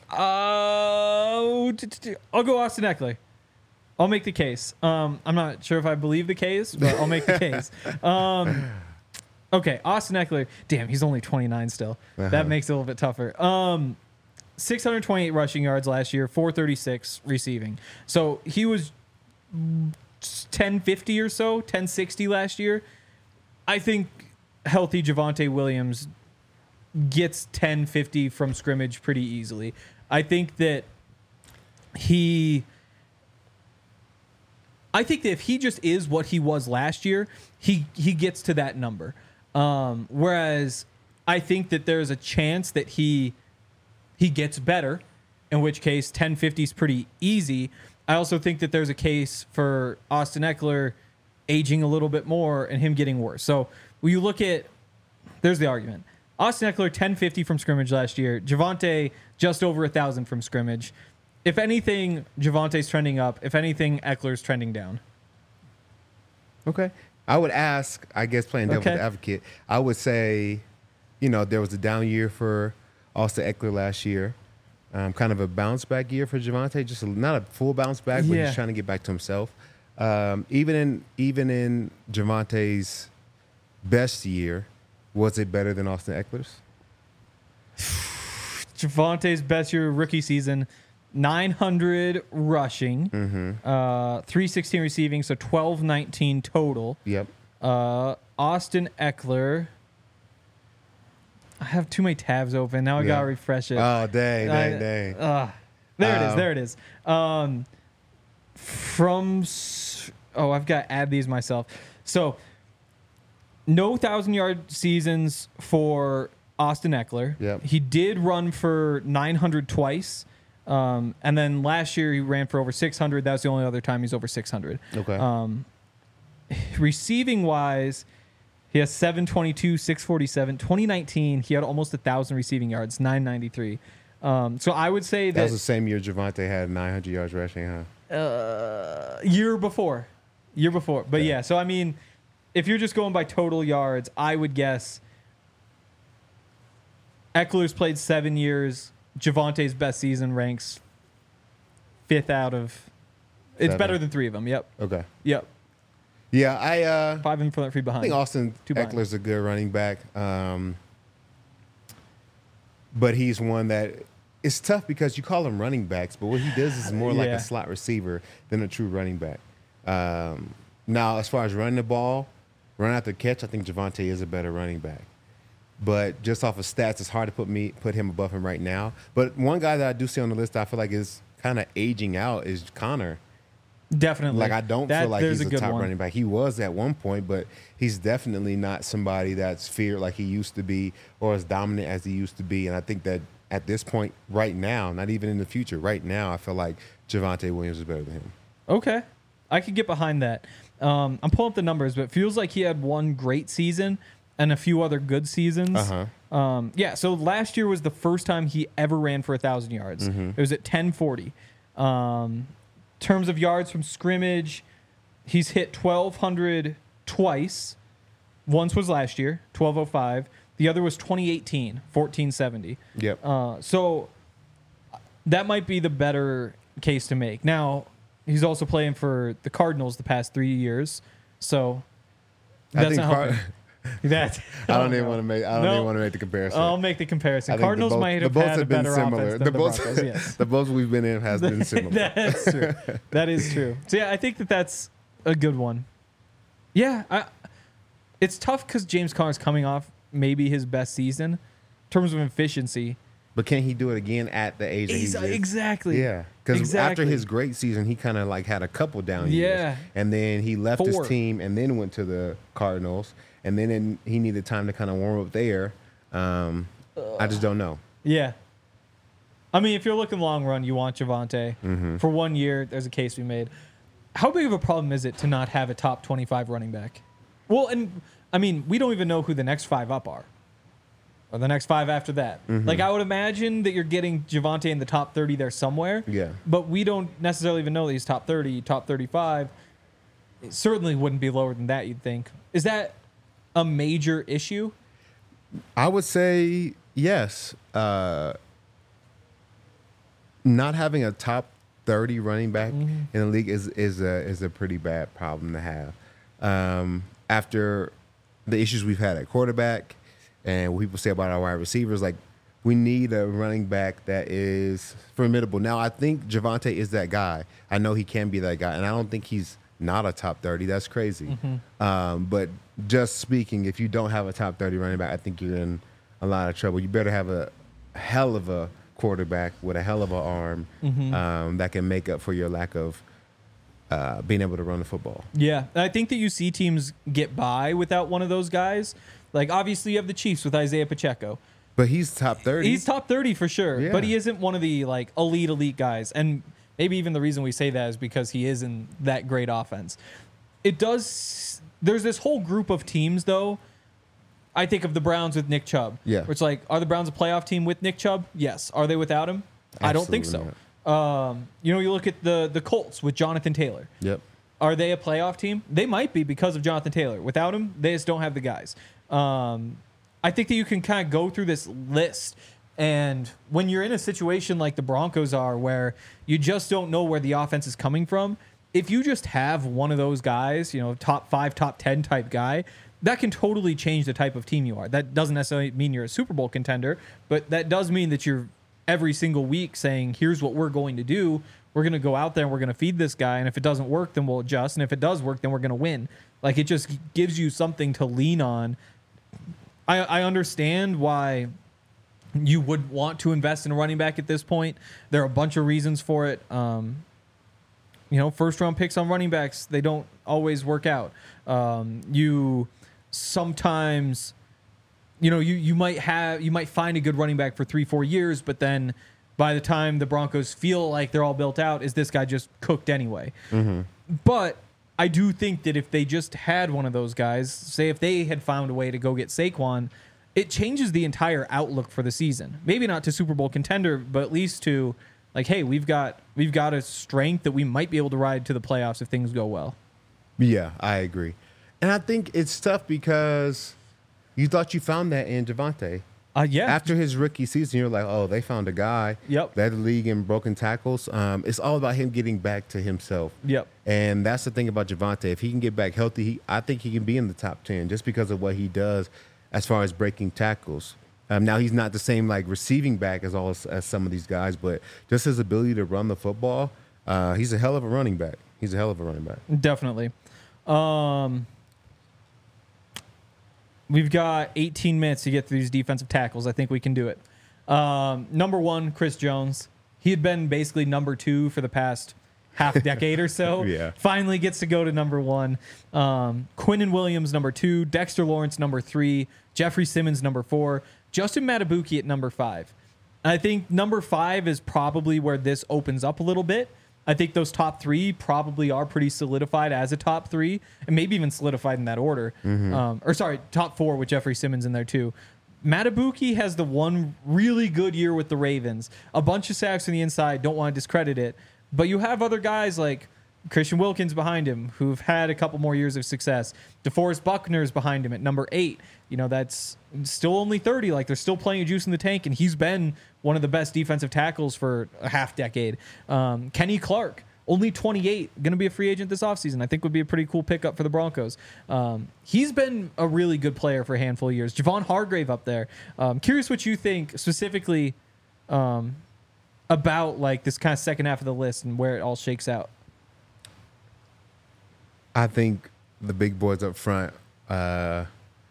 I'll go Austin Eckler. I'll make the case. I'm not sure if I believe the case, but I'll make the case. Okay, Austin Eckler. Damn, he's only 29 still. That makes it a little bit tougher. 628 rushing yards last year, 436 receiving. So he was 1050 or so, 1060 last year. I think healthy Javonte Williams gets 1050 from scrimmage pretty easily. I think that if he just is what he was last year, he gets to that number. Whereas I think that there's a chance that he gets better, in which case 1050 is pretty easy. I also think that there's a case for Austin Eckler aging a little bit more and him getting worse. So when you look at, there's the argument. Austin Eckler, 1050 from scrimmage last year. Javonte, just over 1,000 from scrimmage. If anything, Javonte's trending up. If anything, Eckler's trending down. Okay. I would ask, I guess playing devil's advocate, I would say, there was a down year for Austin Eckler last year. Kind of a bounce back year for Javonte, just not a full bounce back, but he's trying to get back to himself. Even in Javonte's best year, was it better than Austin Eckler's? Javonte's best year rookie season, 900 rushing, 316 receiving, so 1219 total. Yep. Austin Eckler. I have too many tabs open. Now I gotta refresh it. Oh, dang. There it is. I've got to add these myself. So, no 1,000-yard seasons for Austin Eckler. Yep. He did run for 900 twice. And then last year he ran for over 600. That's the only other time he's over 600. Okay. Receiving wise, he has 722, 647. 2019, he had almost 1,000 receiving yards, 993. So I would say that was the same year Javonte had 900 yards rushing, huh? Year before. But yeah, so I mean, if you're just going by total yards, I would guess Eckler's played 7 years. Javonte's best season ranks 5th out of. It's 7. better than 3 of them. Yep. Okay. Yep. Yeah, 5 in front, 3 behind. I think Austin behind. Eckler's a good running back, but he's one that it's tough because you call him running backs, but what he does is more like a slot receiver than a true running back. Now, as far as running the ball, run after catch, I think Javonte is a better running back. But just off of stats, it's hard to put him above him right now. But one guy that I do see on the list I feel like is kind of aging out is Connor. Definitely. Like, I don't feel like he's a top running back. He was at one point, but he's definitely not somebody that's feared like he used to be or as dominant as he used to be. And I think that at this point right now, not even in the future, right now, I feel like Javonte Williams is better than him. Okay. I could get behind that. I'm pulling up the numbers, but it feels like he had one great season and a few other good seasons. So last year was the first time he ever ran for 1,000 yards. It was at 1040. Terms of yards from scrimmage, he's hit 1,200 twice. Once was last year, 1,205. The other was 2018, 1,470. Yep. So that might be the better case to make. Now, he's also playing for the Cardinals the past 3 years, so that's not helping. I don't even want to make the comparison. I'll make the comparison. Cardinals might have had a better offense than the Broncos. Yes. The both we've been in has been similar. That's true. That is true. So yeah, I think that's a good one. Yeah, it's tough because James Conner's coming off maybe his best season in terms of efficiency. But can he do it again at the age that he's in? Exactly. Yeah. Because after his great season, he kind of like had a couple down years. Yeah. And then he left his team and then went to the Cardinals. And then he needed time to kind of warm up there. I just don't know. Yeah. I mean, if you're looking long run, you want Javonte. For 1 year, there's a case we made. How big of a problem is it to not have a top 25 running back? Well, and I mean, we don't even know who the next 5 up are. Or the next 5 after that. Like, I would imagine that you're getting Javonte in the top 30 there somewhere. Yeah. But we don't necessarily even know that he's top 30, top 35. It certainly wouldn't be lower than that, you'd think. Is that a major issue? I would say yes. Not having a top 30 running back in the league is a pretty bad problem to have. After the issues we've had at quarterback and what people say about our wide receivers, like, we need a running back that is formidable. Now, I think Javonte is that guy. I know he can be that guy, and I don't think he's not a top 30. That's crazy. But just speaking, if you don't have a top 30 running back, I think you're in a lot of trouble. You better have a hell of a quarterback with a hell of an arm that can make up for your lack of being able to run the football. Yeah. I think that you see teams get by without one of those guys Like, obviously, you have the Chiefs with Isaiah Pacheco. But he's top 30. He's top 30 for sure, Yeah. but he isn't one of the like elite guys. And maybe even the reason we say that is because he isn't that great offense. There's this whole group of teams though. I think of the Browns with Nick Chubb. Yeah. Where it's like, are the Browns a playoff team with Nick Chubb? Yes. Are they without him? I don't think so. Absolutely You look at the Colts with Jonathan Taylor. Yep. Are they a playoff team? They might be because of Jonathan Taylor. Without him, they just don't have the guys. I think that you can kind of go through this list, and when you're in a situation like the Broncos are, where you just don't know where the offense is coming from, if you just have one of those guys, top 5, top 10 type guy, that can totally change the type of team you are. That doesn't necessarily mean you're a Super Bowl contender, but that does mean that you're every single week saying, here's what we're going to do. We're going to go out there and we're going to feed this guy. And if it doesn't work, then we'll adjust. And if it does work, then we're going to win. Like, it just gives you something to lean on. I understand why you would want to invest in a running back at this point. There are a bunch of reasons for it. First round picks on running backs, they don't always work out. You sometimes, you might find a good running back for 3-4 years, but then by the time the Broncos feel like they're all built out, is this guy just cooked anyway? Mm-hmm. But I do think that if they just had one of those guys, say if they had found a way to go get Saquon, it changes the entire outlook for the season. Maybe not to Super Bowl contender, but at least to like, hey, we've got a strength that we might be able to ride to the playoffs if things go well. Yeah, I agree. And I think it's tough because you thought you found that in Javonte. Yeah. After his rookie season, you're like, oh, they found a guy. Yep. Led the league in broken tackles. It's all about him getting back to himself. Yep. And that's the thing about Javonte. If he can get back healthy, I think he can be in the top 10 just because of what he does as far as breaking tackles. Now, he's not the same like receiving back as some of these guys, but just his ability to run the football, he's a hell of a running back. Definitely. We've got 18 minutes to get through these defensive tackles. I think we can do it. Number 1, Chris Jones. He had been basically number 2 for the past half decade or so. Yeah. Finally gets to go to number 1. Quinnen Williams, number 2. Dexter Lawrence, number 3. Jeffrey Simmons, number 4. Justin Matabuki at number 5. I think number 5 is probably where this opens up a little bit. I think those top 3 probably are pretty solidified as a top 3, and maybe even solidified in that order. Mm-hmm. Top 4 with Jeffrey Simmons in there too. Matabuki has the one really good year with the Ravens. A bunch of sacks on the inside. Don't want to discredit it. But you have other guys like Christian Wilkins behind him who've had a couple more years of success. DeForest Buckner's behind him at number 8. That's still only 30. Like, they're still playing a juice in the tank, and he's been one of the best defensive tackles for a half decade. Kenny Clark, only 28, going to be a free agent this offseason. I think would be a pretty cool pickup for the Broncos. He's been a really good player for a handful of years. Javon Hargrave up there. Curious what you think specifically about like this kind of second half of the list and where it all shakes out. I think the big boys up front are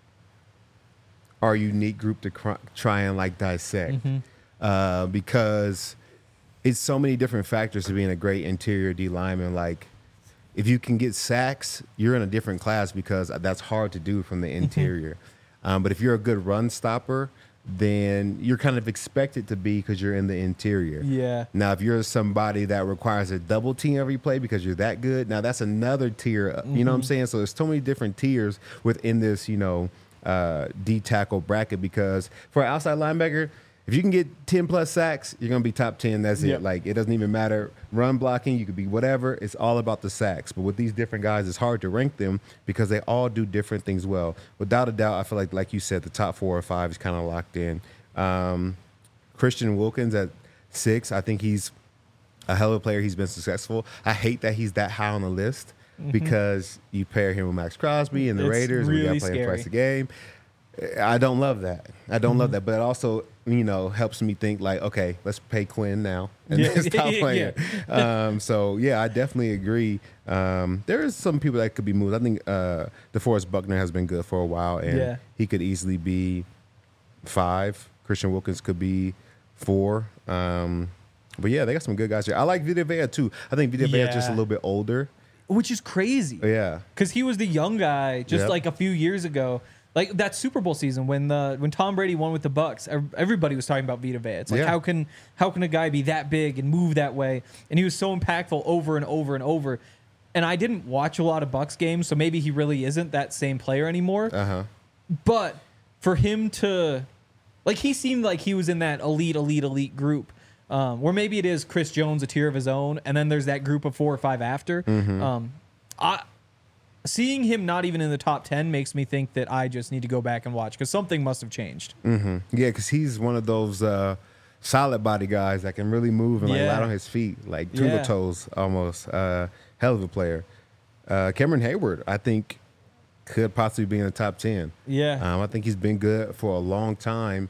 a unique group to try and like dissect because it's so many different factors to being a great interior D lineman. Like, if you can get sacks, you're in a different class because that's hard to do from the interior. But if you're a good run stopper, then you're kind of expected to be because you're in the interior. Yeah. Now, if you're somebody that requires a double team every play because you're that good, now that's another tier. You know what I'm saying? So there's so many different tiers within this, D tackle bracket, because for an outside linebacker, if you can get 10 plus sacks, you're going to be top 10. That's Yep. it. Like, it doesn't even matter. Run blocking, you could be whatever. It's all about the sacks. But with these different guys, it's hard to rank them because they all do different things well. Without a doubt, I feel like you said, the top 4 or 5 is kind of locked in. Christian Wilkins at 6, I think he's a hell of a player. He's been successful. I hate that he's that high on the list because you pair him with Max Crosby and the It's Raiders. really We got playing scary. twice a game. I don't love that. But it also, helps me think like, okay, let's pay Quinn now and Yeah. then stop playing. Yeah. So I definitely agree. There is some people that could be moved. I think DeForest Buckner has been good for a while, and he could easily be 5. Christian Wilkins could be 4. But yeah, they got some good guys here. I like Vita Vea too. I think Vita Vea is just a little bit older. Which is crazy. Yeah. Because he was the young guy just Yep. like a few years ago. Like that Super Bowl season when Tom Brady won with the Bucks, everybody was talking about Vita Vea. It's like Yeah. how can a guy be that big and move that way? And he was so impactful over and over and over. And I didn't watch a lot of Bucks games, so maybe he really isn't that same player anymore. But for him to, like, he seemed like he was in that elite group. Where maybe it is Chris Jones, a tier of his own, and then there's that group of 4 or 5 after. Seeing him not even in the top 10 makes me think that I just need to go back and watch because something must have changed. Yeah, because he's one of those solid body guys that can really move and like Yeah. light on his feet, like tulip Yeah. toes almost. Hell of a player. Cameron Hayward, I think, could possibly be in the top 10. Yeah. I think he's been good for a long time.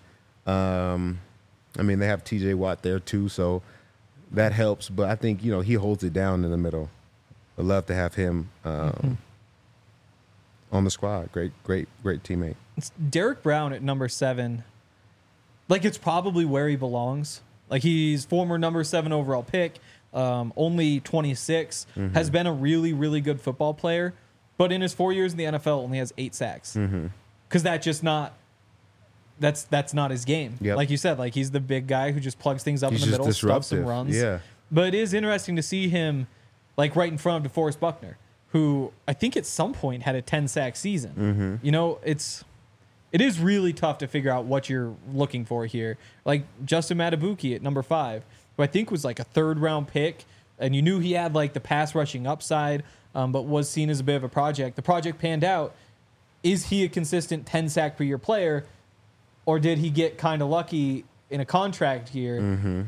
I mean, they have TJ Watt there too, so that helps. But I think, he holds it down in the middle. I'd love to have him on the squad. Great teammate. It's Derek Brown at number 7. Like, it's probably where he belongs. Like, he's former number 7 overall pick, only 26, has been a really, really good football player. But in his 4 years in the NFL, only has 8 sacks. Because that's not his game. Yep. Like you said, like he's the big guy who just plugs things up He's in the just middle, stuffs and disruptive. runs. Yeah. But it is interesting to see him like right in front of DeForest Buckner, who I think at some point had a 10-sack season. It is really tough to figure out what you're looking for here. Like Justin Matabuki at number 5, who I think was like a 3rd-round pick, and you knew he had like the pass rushing upside, but was seen as a bit of a project. The project panned out. Is he a consistent 10-sack per year player, or did he get kind of lucky in a contract year?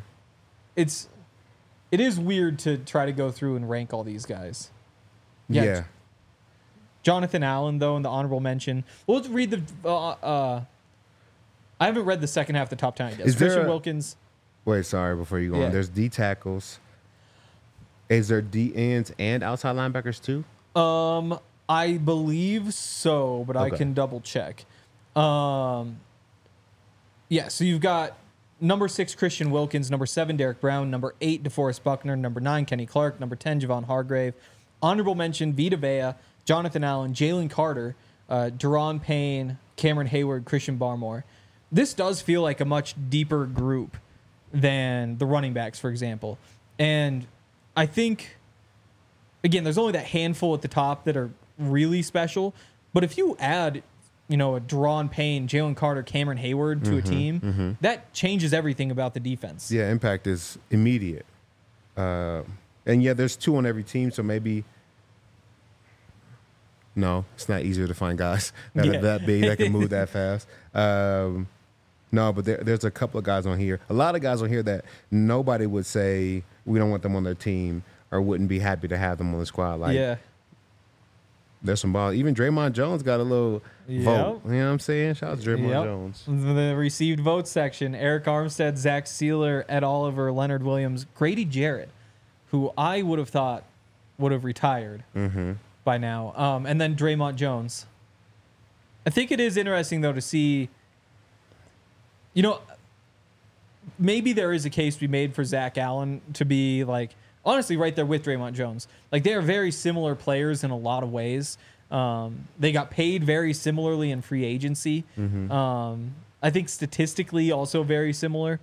It is weird to try to go through and rank all these guys. Yeah. Jonathan Allen, though, in the honorable mention. We'll read the. I haven't read the second half of the top 10. I guess. Is there Christian a- Wilkins. Wait, sorry, before you go Yeah. on. There's D tackles. Is there D ends and outside linebackers too? I believe so, but I Okay. can double check. Yeah, so you've got number 6, Christian Wilkins, number 7, Derek Brown, number 8, DeForest Buckner, number 9, Kenny Clark, number 10, Javon Hargrave. Honorable mention, Vita Vea, Jonathan Allen, Jalen Carter, Deron Payne, Cameron Hayward, Christian Barmore. This does feel like a much deeper group than the running backs, for example. And I think, again, there's only that handful at the top that are really special. But if you add, a Deron Payne, Jalen Carter, Cameron Hayward to a team, that changes everything about the defense. Yeah, impact is immediate. And yeah, there's 2 on every team, so maybe. No, it's not easier to find guys that Yeah. are that big that can move that fast. No, but there's a couple of guys on here. A lot of guys on here that nobody would say we don't want them on their team or wouldn't be happy to have them on the squad. Like, Yeah. there's some ball. Even Draymond Jones got a little vote. You know what I'm saying? Shout out to Draymond Yep. Jones. The received vote section: Eric Armstead, Zach Sealer, Ed Oliver, Leonard Williams, Grady Jarrett, who I would have thought would have retired by now, and then Draymond Jones. I think it is interesting though to see. Maybe there is a case to be made for Zach Allen to be like honestly right there with Draymond Jones. Like they are very similar players in a lot of ways. They got paid very similarly in free agency. I think statistically also very similar.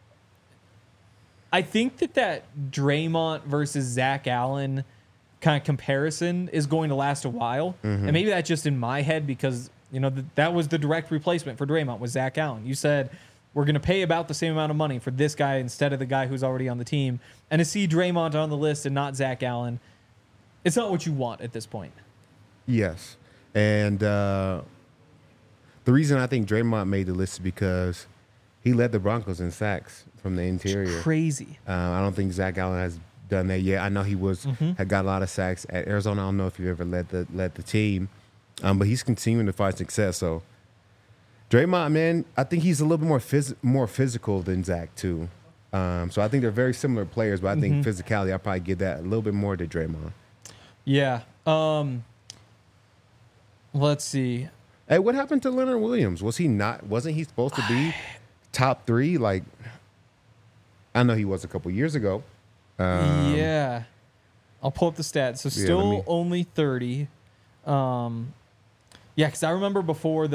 I think that Draymond versus Zach Allen kind of comparison is going to last a while. And maybe that's just in my head because, that was the direct replacement for Draymond was Zach Allen. You said, we're going to pay about the same amount of money for this guy instead of the guy who's already on the team. And to see Draymond on the list and not Zach Allen, it's not what you want at this point. Yes. And the reason I think Draymond made the list is because he led the Broncos in sacks from the interior. Crazy. I don't think Zach Allen has done that yet. I know he had got a lot of sacks at Arizona. I don't know if he ever led the team, but he's continuing to find success. So Draymond, man, I think he's a little bit more physical than Zach too. So I think they're very similar players, but I think physicality, I'll probably give that a little bit more to Draymond. Yeah. Let's see. Hey, what happened to Leonard Williams? Wasn't he supposed to be top 3? Like, I know he was a couple years ago. Yeah. I'll pull up the stats. So still let me- only 30. Yeah, because I remember before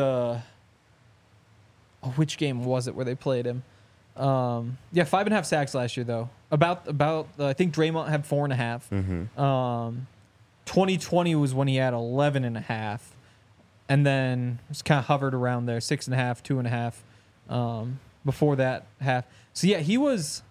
which game was it where they played him? 5.5 sacks last year though. About I think Draymond had 4.5. 2020 was when he had 11.5, and then it's kind of hovered around there 6.5, 2.5. Before that half. So yeah, he was.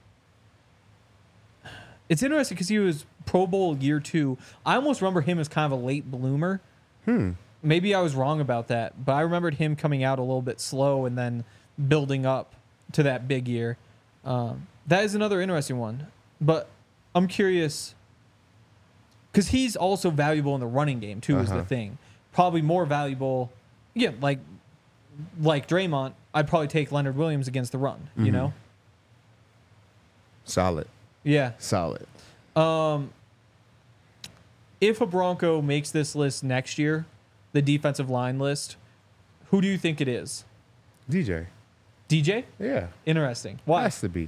It's interesting because he was Pro Bowl year 2. I almost remember him as kind of a late bloomer. Maybe I was wrong about that, but I remembered him coming out a little bit slow and then building up to that big year. That is another interesting one. But I'm curious because he's also valuable in the running game too. Is the thing probably more valuable? Yeah, like Draymond, I'd probably take Leonard Williams against the run. You know, solid. Yeah, solid. If a Bronco makes this list next year, the defensive line list, who do you think it is? DJ. DJ? Yeah. Interesting. Why? Has to be.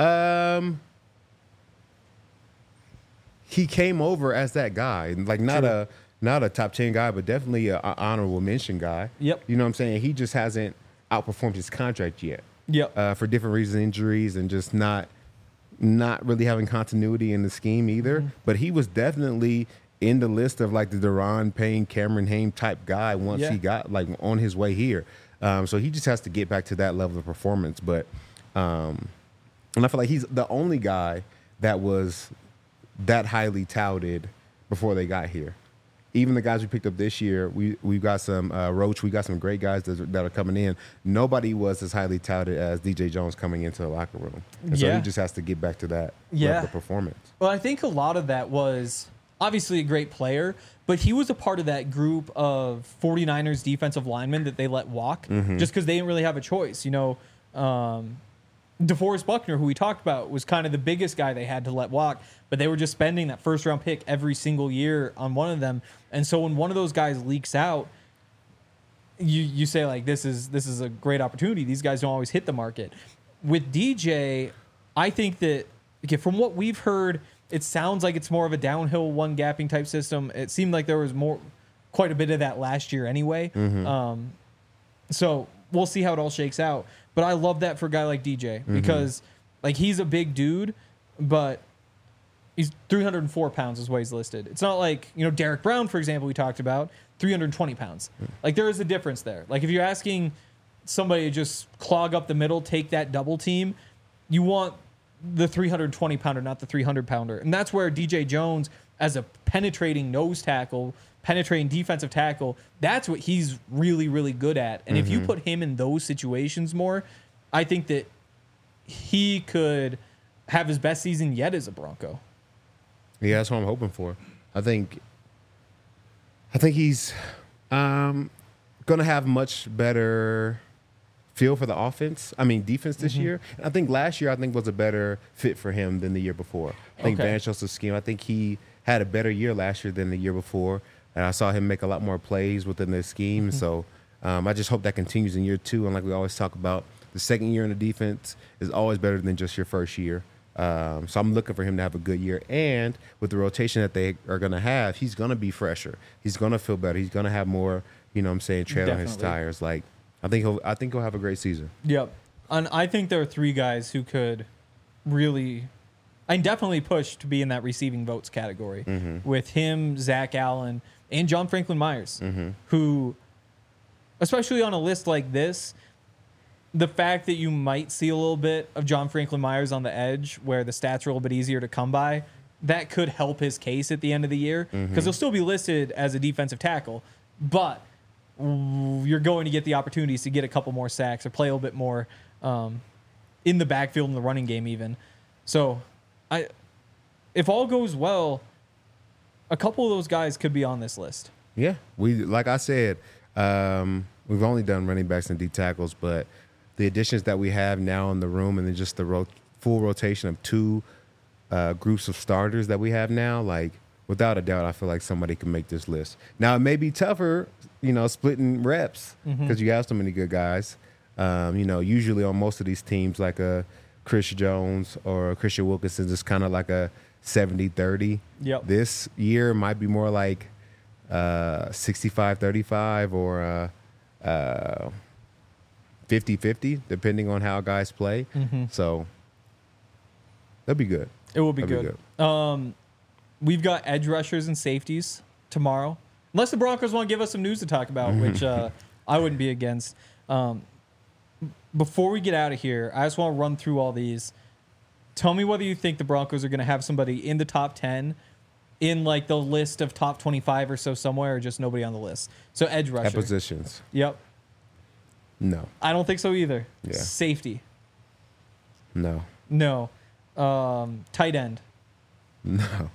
He came over as that guy, like not a top 10 guy, but definitely an honorable mention guy. Yep. You know what I'm saying? He just hasn't outperformed his contract yet. Yep. For different reasons, injuries, and just not really having continuity in the scheme either. But he was definitely in the list of like the Deron Payne, Cameron Haim type guy once he got like on his way here. So he just has to get back to that level of performance. But and I feel like he's the only guy that was that highly touted before they got here. Even the guys we picked up this year, we got some Roach, we got some great guys that are coming in. Nobody was as highly touted as DJ Jones coming into the locker room. And so he just has to get back to that level of performance. Well, I think a lot of that was obviously a great player, but he was a part of that group of 49ers defensive linemen that they let walk just because they didn't really have a choice. You know, DeForest Buckner, who we talked about, was kind of the biggest guy they had to let walk, but they were just spending that first round pick every single year on one of them. And so when one of those guys leaks out, you say like, this is a great opportunity. These guys don't always hit the market. With DJ, I think that from what we've heard, it sounds like it's more of a downhill one gapping type system. It seemed like there was quite a bit of that last year anyway. So we'll see how it all shakes out. But I love that for a guy like DJ because like he's a big dude, but he's 304 pounds is what he's listed. It's not like, you know, Derek Brown, for example, we talked about 320 pounds. Like there is a difference there. Like if you're asking somebody to just clog up the middle, take that double team, you want the 320 pounder, not the 300 pounder. And that's where DJ Jones as a penetrating nose tackle, penetrating defensive tackle, that's what he's really, really good at. And if you put him in those situations more, I think that he could have his best season yet as a Bronco. Yeah, that's what I'm hoping for. I think he's going to have much better feel for the defense this year. And I think last year, was a better fit for him than the year before. I think Van Joseph's scheme, I think he had a better year last year than the year before. And I saw him make a lot more plays within the scheme. So I just hope that continues in year 2. And like we always talk about, the second year in the defense is always better than just your first year. So I'm looking for him to have a good year. And with the rotation that they are going to have, he's going to be fresher. He's going to feel better. He's going to have more, tread on his tires. Like, I think he'll have a great season. Yep. And I think there are 3 guys who could really, I definitely push to be in that receiving votes category with him, Zach Allen, and John Franklin Myers, who, especially on a list like this, the fact that you might see a little bit of John Franklin Myers on the edge where the stats are a little bit easier to come by, that could help his case at the end of the year because he'll still be listed as a defensive tackle, but you're going to get the opportunities to get a couple more sacks or play a little bit more in the backfield in the running game even. So if all goes well, a couple of those guys could be on this list. Yeah. Like I said, we've only done running backs and D tackles, but the additions that we have now in the room and then just the full rotation of 2 groups of starters that we have now, like without a doubt, I feel like somebody can make this list. Now, it may be tougher, splitting reps because you have so many good guys. Usually on most of these teams, like a Chris Jones or a Christian Wilkinson, it's kind of like a 70-30. Yep. This year might be more like 65-35 or 50-50, depending on how guys play. So that'll be good. It will be That'll good. We've got edge rushers and safeties tomorrow. Unless the Broncos want to give us some news to talk about, which I wouldn't be against. Before we get out of here, I just want to run through all these. Tell me whether you think the Broncos are going to have somebody in the top 10 in like the list of top 25 or so somewhere, or just nobody on the list. So edge rusher. At positions. Yep. No. I don't think so either. Yeah. Safety. No. No. Tight end. No.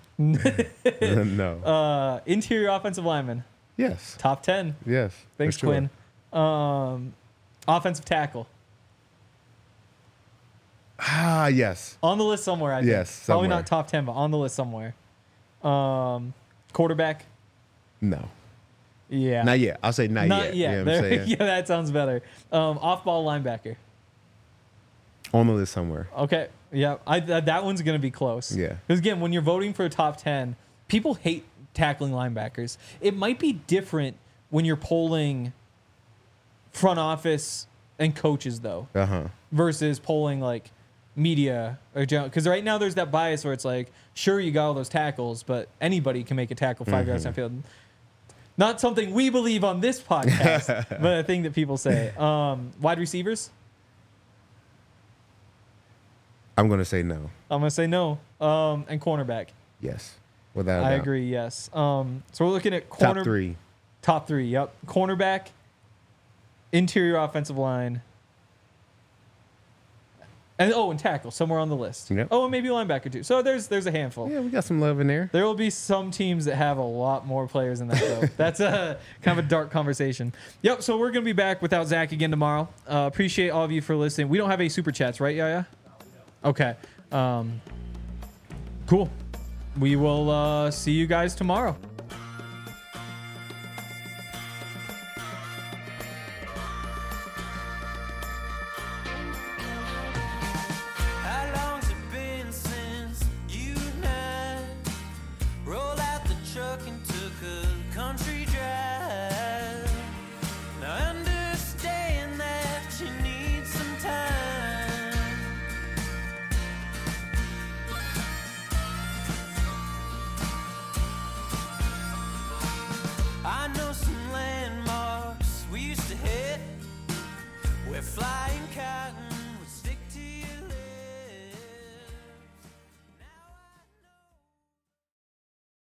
No. Interior offensive lineman. Yes. Top 10. Yes. Thanks, for sure. Quinn. Offensive tackle. Yes. On the list somewhere, I think. Yes, Probably somewhere. not top 10, but on the list somewhere. Quarterback. No. Yeah. Not yet. I'll say not yet. yet. You know what I'm saying? Yeah, that sounds better. Off-ball linebacker. On the list somewhere. Okay. Yeah. That one's going to be close. Yeah. Because, again, when you're voting for a top 10, people hate tackling linebackers. It might be different when you're polling front office and coaches, though, versus polling, like, media or because right now there's that bias where it's like, sure, you got all those tackles, but anybody can make a tackle 5 yards downfield. Not something we believe on this podcast, but a thing that people say. Wide receivers. I'm going to say no. I'm gonna say no. And cornerback. Yes. Without a I doubt. agree. Yes. So we're looking at corner. Top three. Top three. Yep. Cornerback. Interior offensive line. And tackle somewhere on the list. Yep. Oh, and maybe linebacker too. So there's a handful. Yeah, we got some love in there. There will be some teams that have a lot more players than that, though. That's a kind of a dark conversation. Yep. So we're gonna be back without Zach again tomorrow. Appreciate all of you for listening. We don't have any super chats, right, Yaya? Okay. Cool. We will see you guys tomorrow.